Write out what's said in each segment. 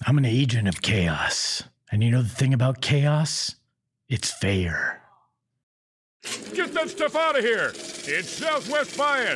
I'm an agent of chaos. And you know the thing about chaos? It's fair. Get that stuff out of here! It's Southwest Bias!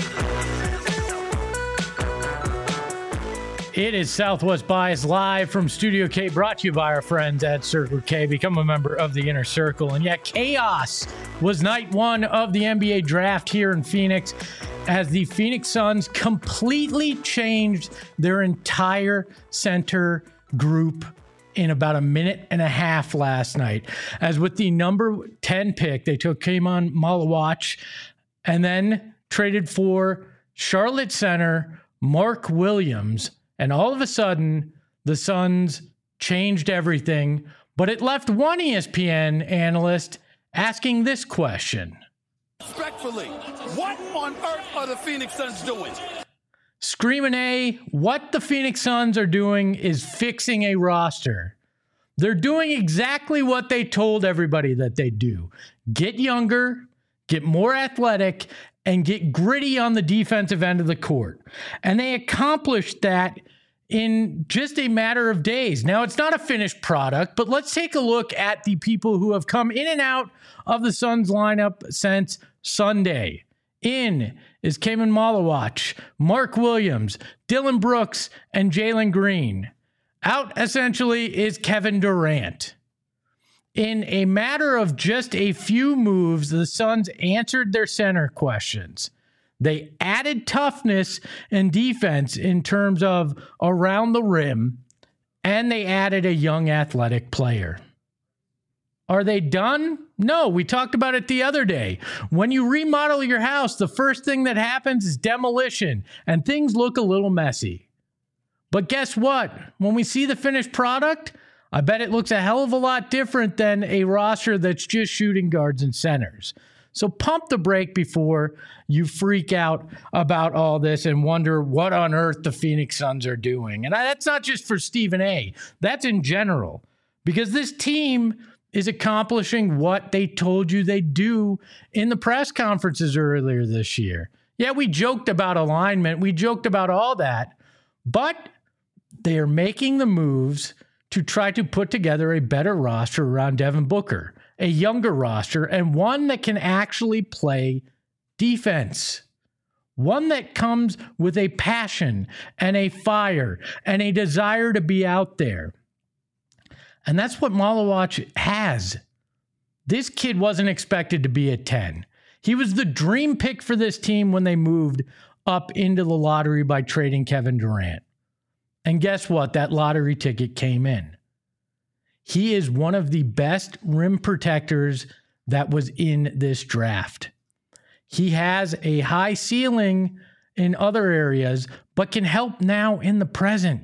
It is Southwest Bias live from Studio K, brought to you by our friends at Circle K. Become a member of the Inner Circle. And yeah, chaos was night one of the NBA draft here in Phoenix as the Phoenix Suns completely changed their entire center group in about a minute and a half last night. As with the number 10 pick, they took Kemon Malawach and then traded for Charlotte center Mark Williams. And all of a sudden, the Suns changed everything, but it left one ESPN analyst asking this question. Respectfully, what on earth are the Phoenix Suns doing? Screaming A, what the Phoenix Suns are doing is fixing a roster. They're doing exactly what they told everybody that they'd do. Get younger, get more athletic, and get gritty on the defensive end of the court. And they accomplished that in just a matter of days. Now, it's not a finished product, but let's take a look at the people who have come in and out of the Suns lineup since Sunday. In is Kemon Malawach, Mark Williams, Dillon Brooks, and Jalen Green. Out, essentially, is Kevin Durant. In a matter of just a few moves, the Suns answered their center questions. They added toughness and defense in terms of around the rim, and they added a young athletic player. Are they done? No, we talked about it the other day. When you remodel your house, the first thing that happens is demolition, and things look a little messy. But guess what? When we see the finished product, I bet it looks a hell of a lot different than a roster that's just shooting guards and centers. So pump the brake before you freak out about all this and wonder what on earth the Phoenix Suns are doing. And that's not just for Stephen A. That's in general. Because this team is accomplishing what they told you they'd do in the press conferences earlier this year. Yeah, we joked about alignment. We joked about all that. But they are making the moves to try to put together a better roster around Devin Booker, a younger roster, and one that can actually play defense. One that comes with a passion and a fire and a desire to be out there. And that's what Malawach has. This kid wasn't expected to be a 10. He was the dream pick for this team when they moved up into the lottery by trading Kevin Durant. And guess what? That lottery ticket came in. He is one of the best rim protectors that was in this draft. He has a high ceiling in other areas, but can help now in the present.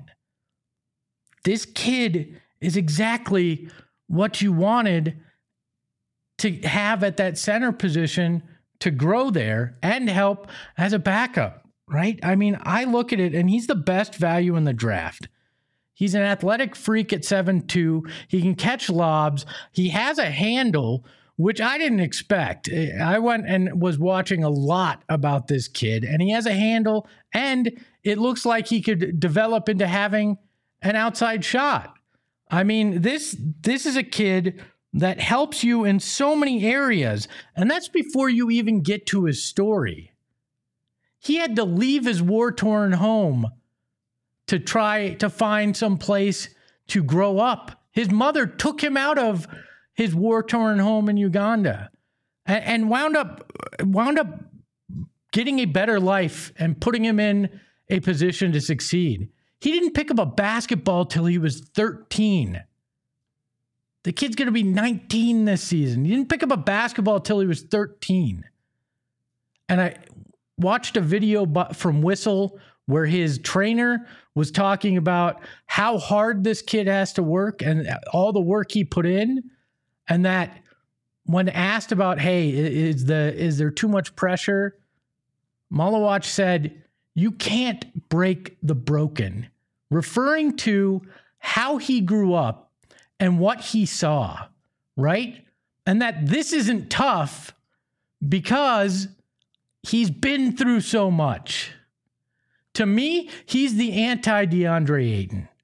This kid is exactly what you wanted to have at that center position to grow there and help as a backup. Right? I mean, I look at it and he's the best value in the draft. He's an athletic freak at 7'2". He can catch lobs. He has a handle, which I didn't expect. I went and was watching a lot about this kid, and he has a handle, and it looks like he could develop into having an outside shot. I mean, this is a kid that helps you in so many areas, and that's before you even get to his story. He had to leave his war-torn home to try to find some place to grow up. His mother took him out of his war-torn home in Uganda and wound up getting a better life and putting him in a position to succeed. He didn't pick up a basketball till he was 13. The kid's going to be 19 this season. He didn't pick up a basketball till he was 13. And I watched a video from Whistle where his trainer was talking about how hard this kid has to work and all the work he put in. And that when asked about, hey, is there too much pressure? Malawach said, you can't break the broken, referring to how he grew up and what he saw, right? And that this isn't tough because he's been through so much. To me, he's the anti-DeAndre Ayton.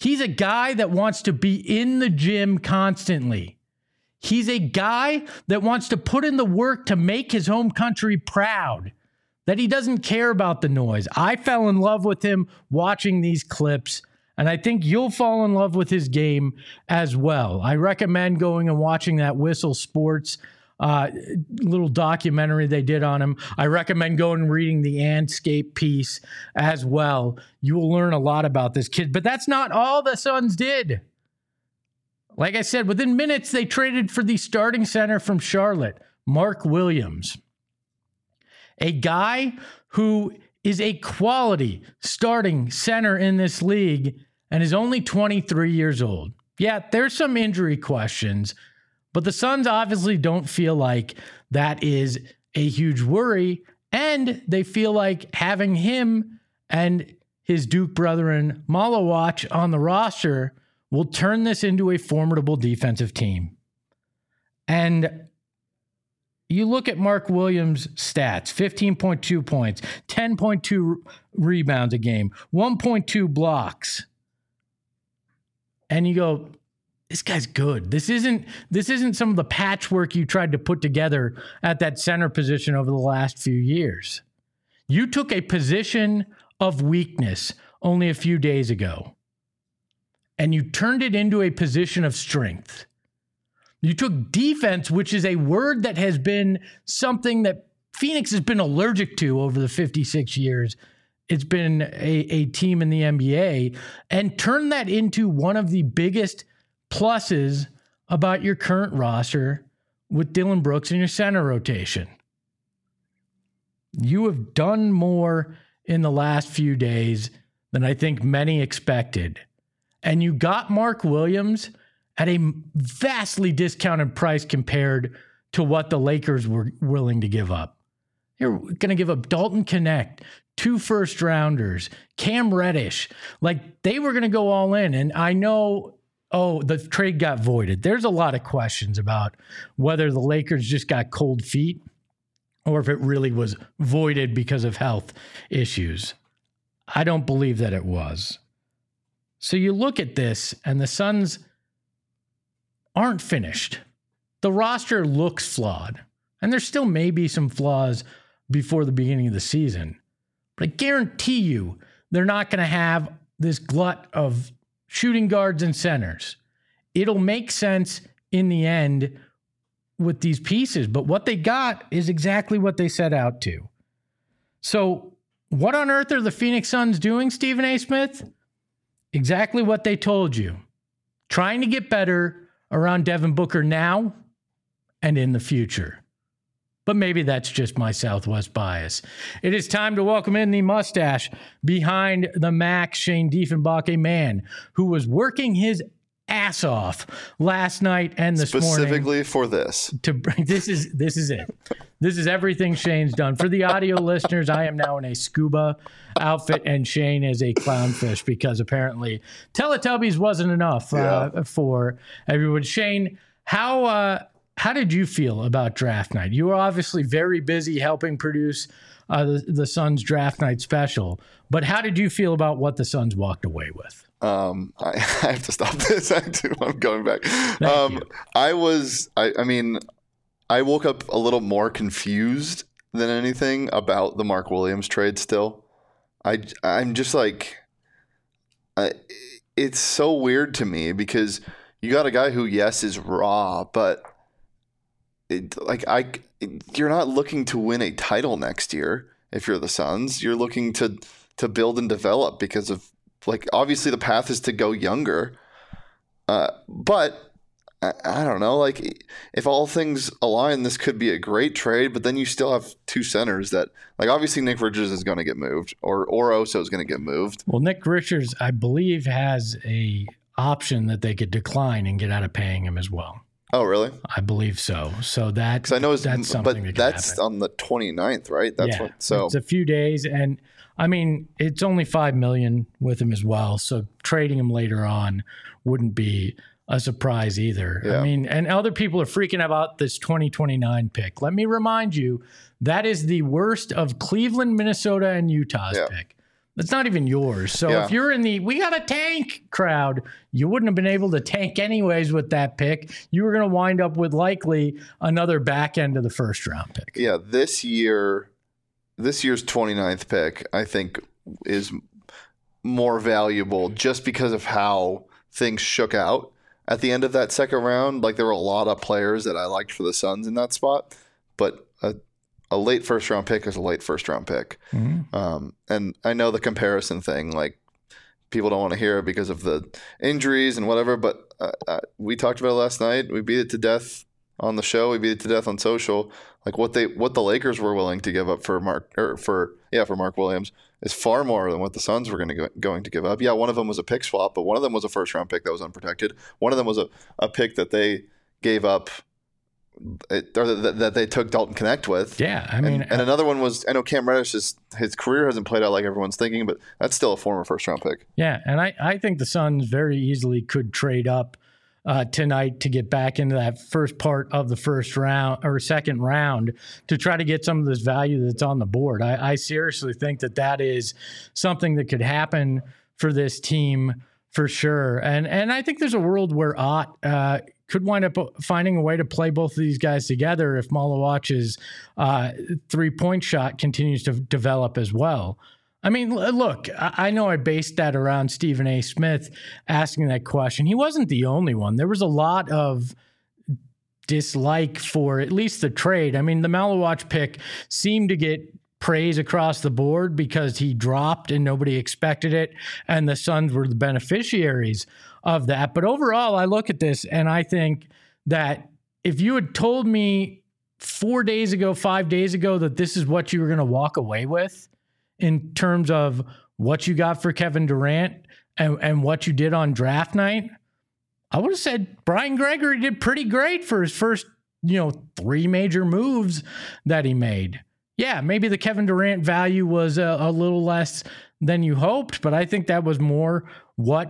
He's a guy that wants to be in the gym constantly. He's a guy that wants to put in the work to make his home country proud, that he doesn't care about the noise. I fell in love with him watching these clips, and I think you'll fall in love with his game as well. I recommend going and watching that Whistle Sports little documentary they did on him. I recommend going and reading the Anscape piece as well. You will learn a lot about this kid, but that's not all the Suns did. Like I said, within minutes, they traded for the starting center from Charlotte, Mark Williams, a guy who is a quality starting center in this league and is only 23 years old. Yeah, there's some injury questions, but the Suns obviously don't feel like that is a huge worry, and they feel like having him and his Duke brethren Malawach on the roster will turn this into a formidable defensive team. And you look at Mark Williams' stats, 15.2 points, 10.2 rebounds a game, 1.2 blocks. And you go, this guy's good. This isn't some of the patchwork you tried to put together at that center position over the last few years. You took a position of weakness only a few days ago, and you turned it into a position of strength. You took defense, which is a word that has been something that Phoenix has been allergic to over the 56 years it's been a team in the NBA, and turned that into one of the biggest pluses about your current roster with Dillon Brooks in your center rotation. You have done more in the last few days than I think many expected. And you got Mark Williams at a vastly discounted price compared to what the Lakers were willing to give up. You're going to give up Dalton Knecht, 2 first-rounders, Cam Reddish. Like, they were going to go all in. And I know, the trade got voided. There's a lot of questions about whether the Lakers just got cold feet or if it really was voided because of health issues. I don't believe that it was. So you look at this, and the Suns aren't finished. The roster looks flawed, and there still may be some flaws before the beginning of the season. But I guarantee you they're not going to have this glut of shooting guards and centers. It'll make sense in the end with these pieces, but what they got is exactly what they set out to. So what on earth are the Phoenix Suns doing, Stephen A. Smith? Exactly what they told you. Trying to get better around Devin Booker now and in the future. But maybe that's just my Southwest bias. It is time to welcome in the mustache behind the Mac, Shane Diefenbach, a man who was working his ass off last night and this morning. Specifically for this. This is it. This is everything Shane's done. For the audio listeners, I am now in a scuba outfit, and Shane is a clownfish because apparently Teletubbies wasn't enough for everyone. Shane, how did you feel about draft night? You were obviously very busy helping produce the Suns draft night special, but how did you feel about what the Suns walked away with? I have to stop this. I'm going back. I woke up a little more confused than anything about the Mark Williams trade still. I'm just like, it's so weird to me because you got a guy who, yes, is raw, but you're not looking to win a title next year if you're the Suns. You're looking to build and develop because of, obviously the path is to go younger. But I don't know, if all things align, this could be a great trade, but then you still have 2 centers that, obviously Nick Richards is going to get moved or Oso is going to get moved. Well, Nick Richards, I believe, has a option that they could decline and get out of paying him as well. Oh, really? I believe so. So that's something that that's happen. On the 29th, right? It's a few days, and I mean it's only $5 million with him as well. So trading him later on wouldn't be a surprise either. Yeah. I mean, and other people are freaking about this 2029 pick. Let me remind you, that is the worst of Cleveland, Minnesota, and Utah's pick. It's not even yours. So Yeah. if you're in the we got a tank crowd, you wouldn't have been able to tank anyways with that pick. You were going to wind up with likely another back end of the first round pick. Yeah, this year's 29th pick, I think, is more valuable just because of how things shook out at the end of that second round. Like, there were a lot of players that I liked for the Suns in that spot, but a late first round pick is a late first round pick. Mm-hmm. And I know the comparison thing, like, people don't want to hear it because of the injuries and whatever, but we talked about it last night. We beat it to death on the show. We beat it to death on social. Like, what the Lakers were willing to give up for Mark Williams is far more than what the Suns were going to give up. Yeah, one of them was a pick swap, but one of them was a first round pick that was unprotected. One of them was a pick that they gave up, or that they took Dalton Connect with. Yeah, I mean, and another one was, I know Cam Reddish, his career hasn't played out like everyone's thinking, but that's still a former first round pick. Yeah, and I think the Suns very easily could trade up tonight to get back into that first part of the first round or second round to try to get some of this value that's on the board. I seriously think that is something that could happen for this team for sure. And I think there's a world where Ott could wind up finding a way to play both of these guys together if Malawach's 3-point shot continues to develop as well. I mean, look, I know I based that around Stephen A. Smith asking that question. He wasn't the only one. There was a lot of dislike for at least the trade. I mean, the Malawach pick seemed to get praise across the board because he dropped and nobody expected it, and the Suns were the beneficiaries of that. But overall, I look at this and I think that if you had told me 4 days ago, 5 days ago, that this is what you were going to walk away with in terms of what you got for Kevin Durant and what you did on draft night, I would have said Brian Gregory did pretty great for his first, 3 major moves that he made. Yeah, maybe the Kevin Durant value was a little less than you hoped, but I think that was more what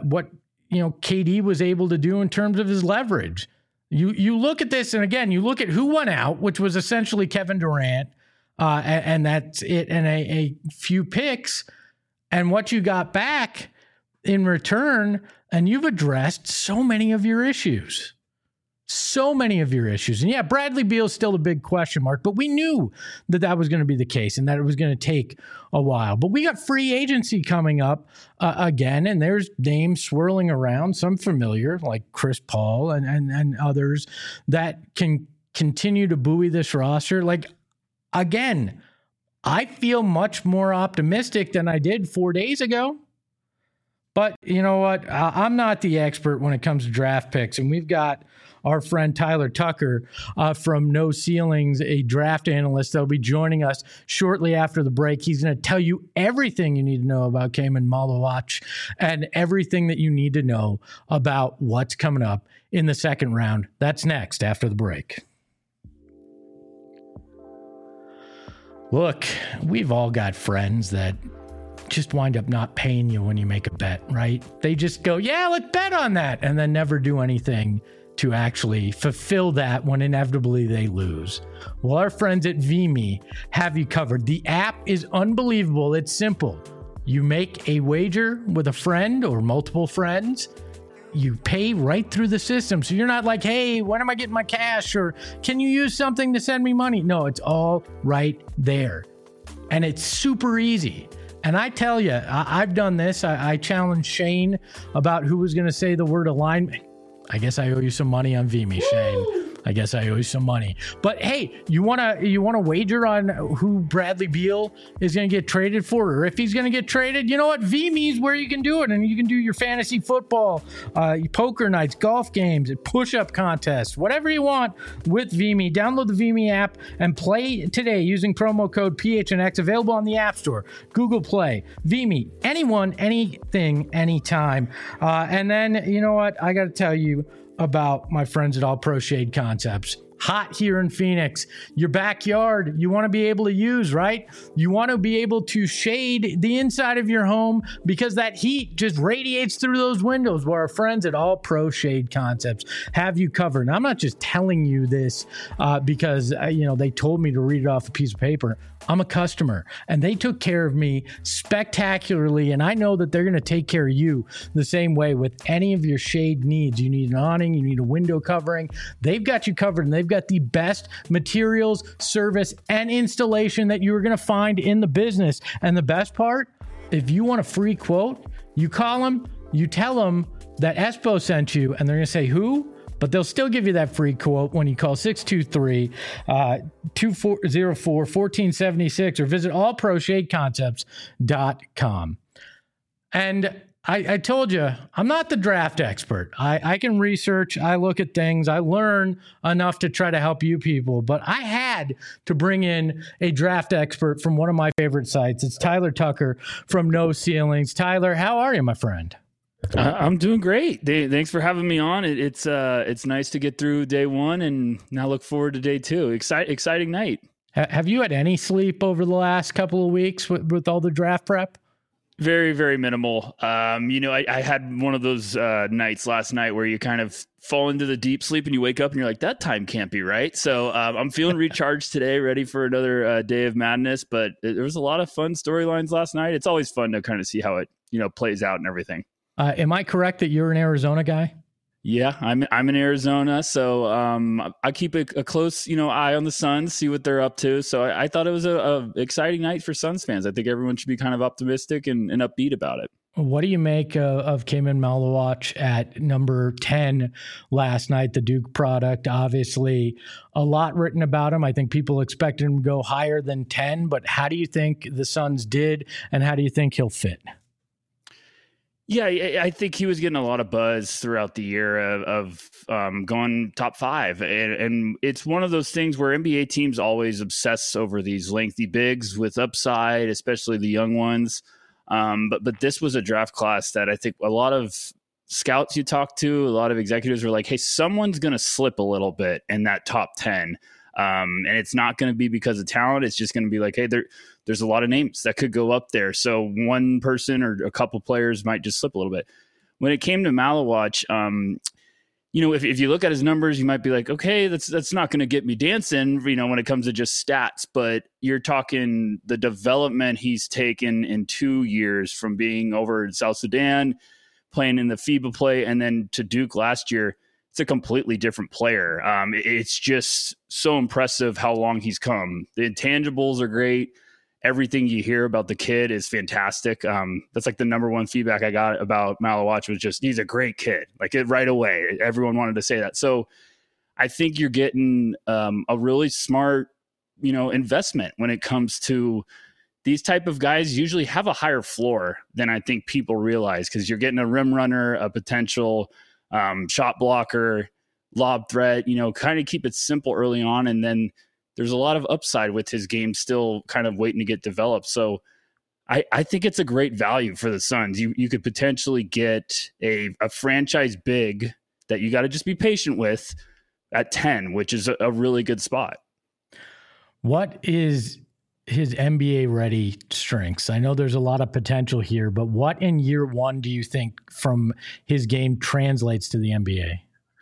KD was able to do in terms of his leverage. You look at this, and again, you look at who went out, which was essentially Kevin Durant, and that's it, and a few picks, and what you got back in return, and you've addressed so many of your issues. So many of your issues. And yeah, Bradley Beal's still a big question mark, but we knew that was going to be the case and that it was going to take a while. But we got free agency coming up again, and there's names swirling around, some familiar, like Chris Paul and others that can continue to buoy this roster. Like, again, I feel much more optimistic than I did 4 days ago. But you know what? I'm not the expert when it comes to draft picks, and we've got our friend Tyler Tucker from No Ceilings, a draft analyst that'll be joining us shortly after the break. He's going to tell you everything you need to know about Khaman Malawach and everything that you need to know about what's coming up in the second round. That's next after the break. Look, we've all got friends that just wind up not paying you when you make a bet, right? They just go, yeah, let's bet on that, and then never do anything to actually fulfill that when inevitably they lose. Well, our friends at VMe have you covered. The app is unbelievable. It's simple. You make a wager with a friend or multiple friends. You pay right through the system. So you're not like, hey, when am I getting my cash? Or can you use something to send me money? No, it's all right there. And it's super easy. And I tell you, I've done this. I challenged Shane about who was going to say the word alignment. I guess I owe you some money on VMe, Shane. I guess I owe you some money. But hey, you wanna wager on who Bradley Beal is going to get traded for, or if he's going to get traded? You know what? VMe is where you can do it, and you can do your fantasy football, poker nights, golf games, push-up contests, whatever you want with VMe. Download the VMe app and play today using promo code PHNX. Available on the App Store, Google Play, VMe. Anyone, anything, anytime. And then you know what? I got to tell you about my friends at All Pro Shade Concepts. hot here in Phoenix. Your backyard, you want to be able to use, right? You want to be able to shade the inside of your home because that heat just radiates through those windows. Where our friends at All Pro Shade Concepts have you covered. And I'm not just telling you this because they told me to read it off a piece of paper. I'm a customer, and they took care of me spectacularly, and I know that they're going to take care of you the same way with any of your shade needs. You need an awning, you need a window covering. They've got you covered, and they've got the best materials, service, and installation that you are going to find in the business. And the best part, if you want a free quote, you call them, you tell them that Espo sent you, and they're going to say, who? But they'll still give you that free quote when you call 623-204-1476 or visit allproshadeconcepts.com. And I told you, I'm not the draft expert. I can research, I look at things, I learn enough to try to help you people, but I had to bring in a draft expert from one of my favorite sites. It's Tyler Tucker from No Ceilings. Tyler, how are you, my friend? I'm doing great. Thanks for having me on. It's nice to get through day one and now look forward to day two. Exciting night. Have you had any sleep over the last couple of weeks with all the draft prep? Very, very minimal. I had one of those nights last night where you kind of fall into the deep sleep and you wake up and you're like, that time can't be right. So I'm feeling recharged today, ready for another day of madness. But there was a lot of fun storylines last night. It's always fun to kind of see how it plays out and everything. Am I correct that you're an Arizona guy? Yeah, I'm in Arizona, so I keep a close eye on the Suns, see what they're up to. So I thought it was a exciting night for Suns fans. I think everyone should be kind of optimistic and upbeat about it. What do you make of Cayman Malawach at number 10 last night, the Duke product? Obviously, a lot written about him. I think people expected him to go higher than 10, but how do you think the Suns did, and how do you think he'll fit? Yeah, I think he was getting a lot of buzz throughout the year of going top 5. And it's one of those things where NBA teams always obsess over these lengthy bigs with upside, especially the young ones. But this was a draft class that I think a lot of scouts you talk to, a lot of executives were like, hey, someone's going to slip a little bit in that top 10. And it's not going to be because of talent. It's just going to be like, hey, there's a lot of names that could go up there. So one person or a couple players might just slip a little bit. When it came to Malawach, if you look at his numbers, you might be like, okay, that's not going to get me dancing, when it comes to just stats. But you're talking the development he's taken in 2 years from being over in South Sudan, playing in the FIBA play, and then to Duke last year. It's a completely different player. It's just so impressive how long he's come. The intangibles are great. Everything you hear about the kid is fantastic. That's like the number one feedback I got about Malawach was just, he's a great kid. Like it right away. Everyone wanted to say that. So I think you're getting a really smart, investment when it comes to these type of guys. Usually have a higher floor than I think people realize, because you're getting a rim runner, a potential shot blocker, lob threat, kind of keep it simple early on. And then there's a lot of upside with his game still kind of waiting to get developed. So I think it's a great value for the Suns. You could potentially get a franchise big that you got to just be patient with at 10, which is a really good spot. What is his NBA ready strengths? I know there's a lot of potential here, but what in year one do you think from his game translates to the NBA?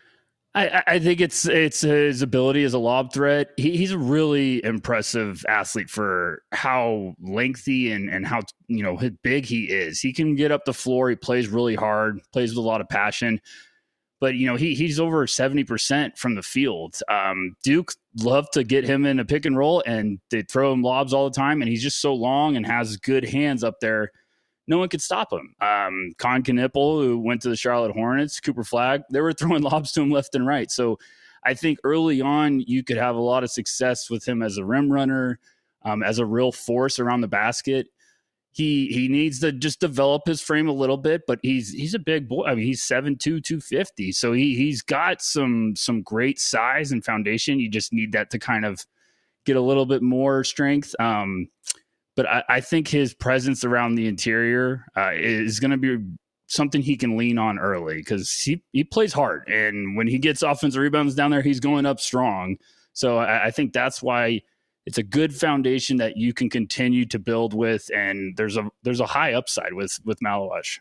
I think it's his ability as a lob threat. He's a really impressive athlete for how lengthy and how big he is. He can get up the floor. He plays really hard, plays with a lot of passion. But he's over 70% from the field. Duke loved to get him in a pick and roll, and they throw him lobs all the time. And he's just so long and has good hands up there. No one could stop him. Con Knipple, who went to the Charlotte Hornets, Cooper Flagg, they were throwing lobs to him left and right. So I think early on you could have a lot of success with him as a rim runner, as a real force around the basket. He needs to just develop his frame a little bit, but he's a big boy. I mean, he's 7'2", 250. So he's got some great size and foundation. You just need that to kind of get a little bit more strength. But I think his presence around the interior is going to be something he can lean on early because he plays hard. And when he gets offensive rebounds down there, he's going up strong. So I think that's why it's a good foundation that you can continue to build with. And there's a high upside with Maluach.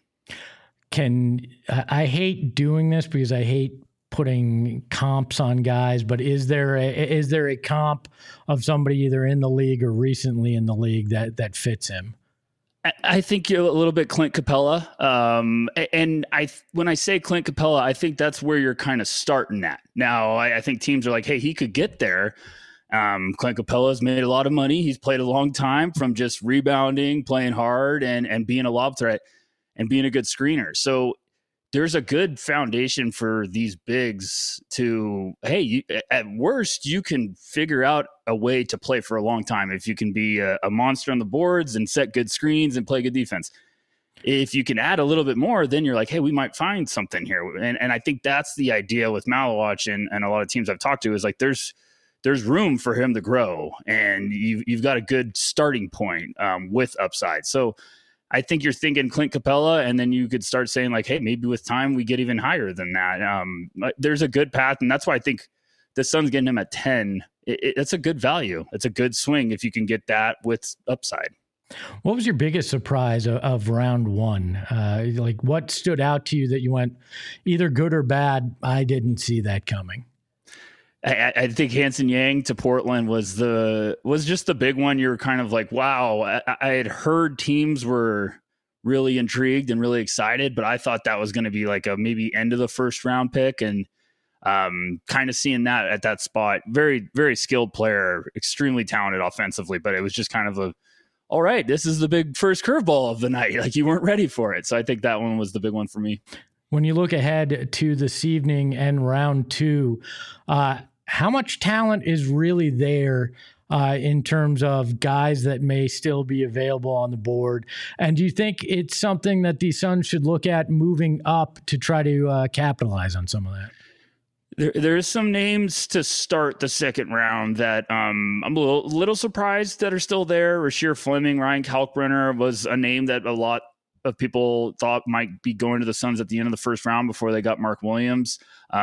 I hate doing this because I hate putting comps on guys, but is there a comp of somebody either in the league or recently in the league that fits him? I think you're a little bit Clint Capella. And when I say Clint Capella, I think that's where you're kind of starting at. Now, I think teams are like, hey, he could get there. Clint Capella's made a lot of money. He's played a long time from just rebounding, playing hard, and being a lob threat and being a good screener. So there's a good foundation for these bigs to, hey, at worst, you can figure out a way to play for a long time if you can be a monster on the boards and set good screens and play good defense. If you can add a little bit more, then you're like, hey, we might find something here. And I think that's the idea with Maluach and a lot of teams I've talked to is like there's room for him to grow, and you've got a good starting point with upside. So I think you're thinking Clint Capella, and then you could start saying like, hey, maybe with time we get even higher than that. There's a good path, and that's why I think the Suns getting him at 10. It's a good value. It's a good swing if you can get that with upside. What was your biggest surprise of round one? Like what stood out to you that you went either good or bad? I didn't see that coming. I think Hanson Yang to Portland was just the big one. You're kind of like, wow, I had heard teams were really intrigued and really excited, but I thought that was going to be like a maybe end of the first round pick, and kind of seeing that at that spot. Very, very skilled player, extremely talented offensively, but it was just kind of all right, this is the big first curveball of the night. Like you weren't ready for it. So I think that one was the big one for me. When you look ahead to this evening and round two, how much talent is really there in terms of guys that may still be available on the board? And do you think it's something that the Suns should look at moving up to try to capitalize on some of that? There's some names to start the second round that I'm a little surprised that are still there. Rasheer Fleming, Ryan Kalkbrenner was a name that a lot of people thought might be going to the Suns at the end of the first round before they got Mark Williams.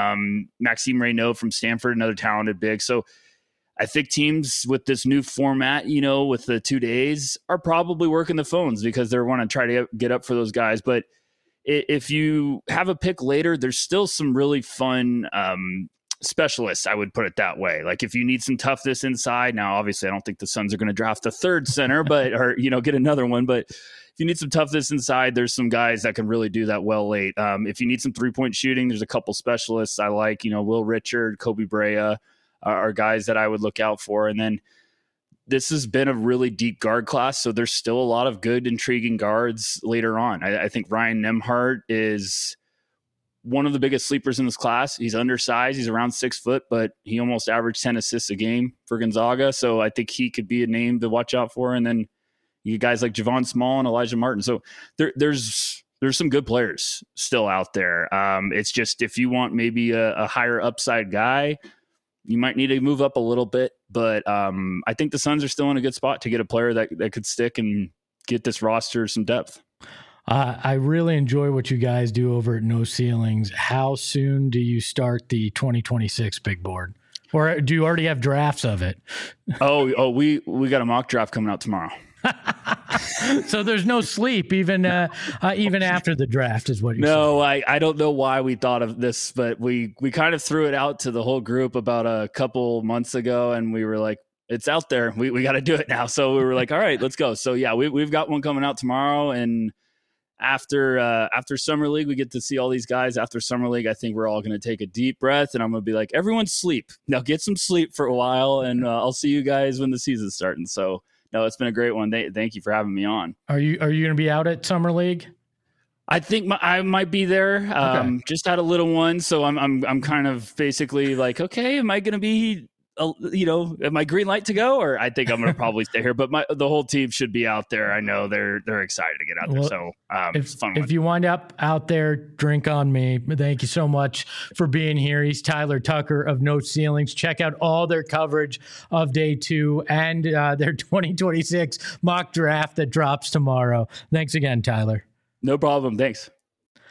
Maxime Reynaud from Stanford, another talented big. So I think teams with this new format, with the 2 days, are probably working the phones because they want to try to get up for those guys. But if you have a pick later, there's still some really fun specialists, I would put it that way. Like if you need some toughness inside, now obviously I don't think the Suns are going to draft a third center, or get another one. But if you need some toughness inside, there's some guys that can really do that well late. If you need some 3-point shooting, there's a couple specialists I like. Will Richard, Kobe Brea are guys that I would look out for. And then this has been a really deep guard class, so there's still a lot of good, intriguing guards later on. I think Ryan Nembhard is one of the biggest sleepers in this class. He's undersized. He's around 6 foot, but he almost averaged 10 assists a game for Gonzaga. So I think he could be a name to watch out for. And then you get guys like Javon Small and Elijah Martin. So there's some good players still out there. It's just if you want maybe a higher upside guy, you might need to move up a little bit. But I think the Suns are still in a good spot to get a player that could stick and get this roster some depth. I really enjoy what you guys do over at No Ceilings. How soon do you start the 2026 big board? Or do you already have drafts of it? We got a mock draft coming out tomorrow. So there's no sleep even after the draft is what you're saying. No, I don't know why we thought of this, but we kind of threw it out to the whole group about a couple months ago, and we were like, it's out there. We got to do it now. So we were like, all right, let's go. So yeah, we've got one coming out tomorrow, and after Summer League, we get to see all these guys. After Summer League, I think we're all going to take a deep breath, and I'm going to be like, everyone sleep. Now get some sleep for a while, and I'll see you guys when the season's starting. So no, it's been a great one. Thank you for having me on. Are you going to be out at Summer League? I think I might be there. Okay. Just had a little one, so I'm kind of basically like, okay, am I going to be, am I green light to go? Or I think I'm going to probably stay here. But the whole team should be out there. I know they're excited to get out there. So it's a fun one. If you wind up out there, drink on me. Thank you so much for being here. He's Tyler Tucker of No Ceilings. Check out all their coverage of day 2 and their 2026 mock draft that drops tomorrow. Thanks again, Tyler. No problem. Thanks.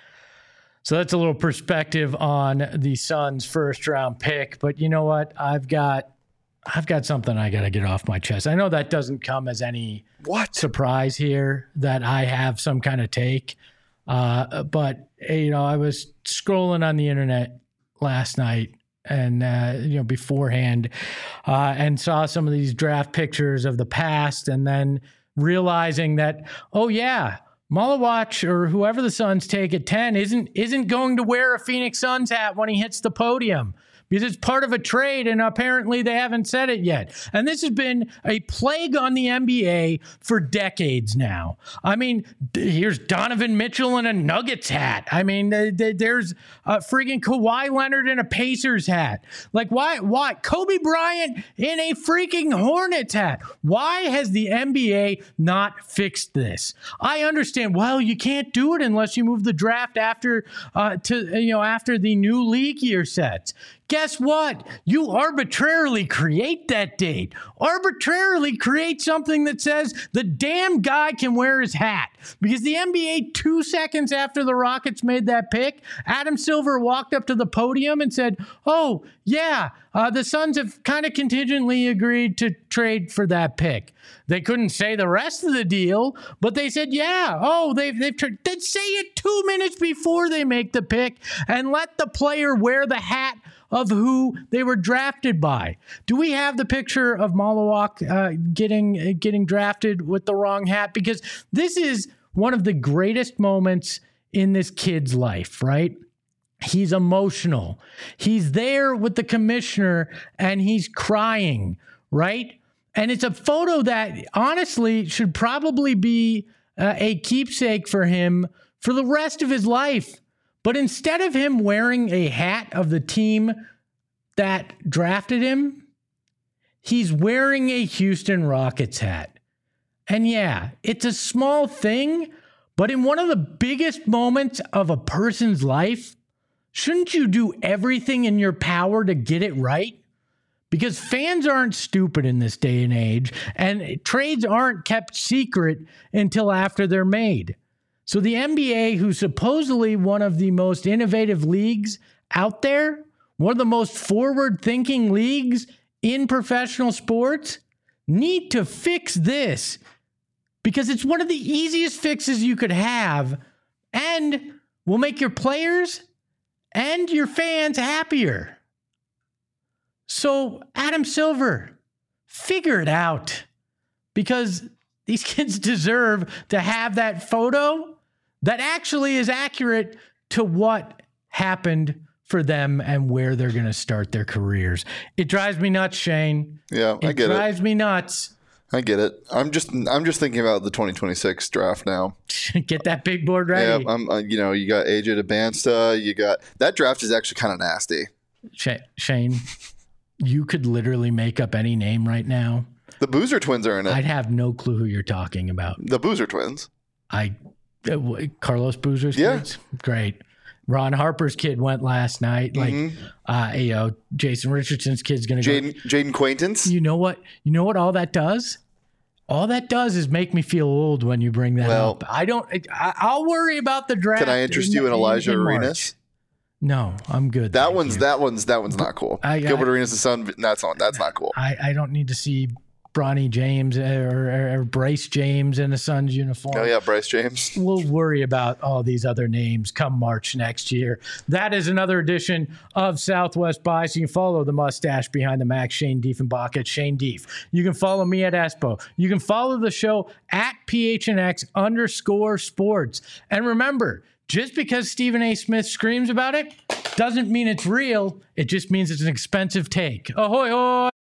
So that's a little perspective on the Suns' first-round pick. But you know what? I've got something I got to get off my chest. I know that doesn't come as any surprise here that I have some kind of take. But I was scrolling on the internet last night and beforehand, and saw some of these draft pictures of the past, and then realizing that, oh yeah, Malawach or whoever the Suns take at 10 isn't going to wear a Phoenix Suns hat when he hits the podium, because it's part of a trade, and apparently they haven't said it yet. And this has been a plague on the NBA for decades now. I mean, here's Donovan Mitchell in a Nuggets hat. I mean, there's friggin' Kawhi Leonard in a Pacers hat. Like, why? Kobe Bryant in a freaking Hornets hat. Why has the NBA not fixed this? I understand, well, you can't do it unless you move the draft after the new league year sets. Guess what? You arbitrarily create that date. Arbitrarily create something that says the damn guy can wear his hat. Because the NBA, 2 seconds after the Rockets made that pick, Adam Silver walked up to the podium and said, oh, yeah, the Suns have kind of contingently agreed to trade for that pick. They couldn't say the rest of the deal, but they said, yeah, oh, they'd say it 2 minutes before they make the pick and let the player wear the hat of who they were drafted by. Do we have the picture of Malawach getting drafted with the wrong hat? Because this is one of the greatest moments in this kid's life, right? He's emotional. He's there with the commissioner and he's crying, right? And it's a photo that honestly should probably be a keepsake for him for the rest of his life. But instead of him wearing a hat of the team that drafted him, he's wearing a Houston Rockets hat. And yeah, it's a small thing, but in one of the biggest moments of a person's life, shouldn't you do everything in your power to get it right? Because fans aren't stupid in this day and age, and trades aren't kept secret until after they're made. So the NBA, who's supposedly one of the most innovative leagues out there, one of the most forward-thinking leagues in professional sports, need to fix this, because it's one of the easiest fixes you could have and will make your players and your fans happier. So Adam Silver, figure it out, because these kids deserve to have that photo that actually is accurate to what happened for them and where they're going to start their careers. It drives me nuts, Shane. Yeah, I get it. It drives me nuts. I get it. I'm just thinking about the 2026 draft now. Get that big board ready. Yeah, you got AJ DeBansta. You got that draft is actually kind of nasty. Shane, you could literally make up any name right now. The Boozer twins are in it. I'd have no clue who you're talking about. The Boozer twins. Carlos Boozer's kids? Great. Ron Harper's kid went last night. Jason Richardson's kid's going to go. Jaden Quaintance. You know what all that does? All that does is make me feel old when you bring that up. I'll worry about the draft. Can I interest you in Elijah Arenas? No, I'm good. That one's not cool. Gilbert Arenas' son. That's not cool. I don't need to see Bronny James or Bryce James in the Suns uniform. Oh, yeah, Bryce James. We'll worry about all these other names come March next year. That is another edition of Southwest Bias. You can follow the mustache behind the Mac, Shane Diefenbach at Shane Dief. You can follow me at Espo. You can follow the show at PHNX_sports. And remember, just because Stephen A. Smith screams about it doesn't mean it's real. It just means it's an expensive take. Ahoy, hoy!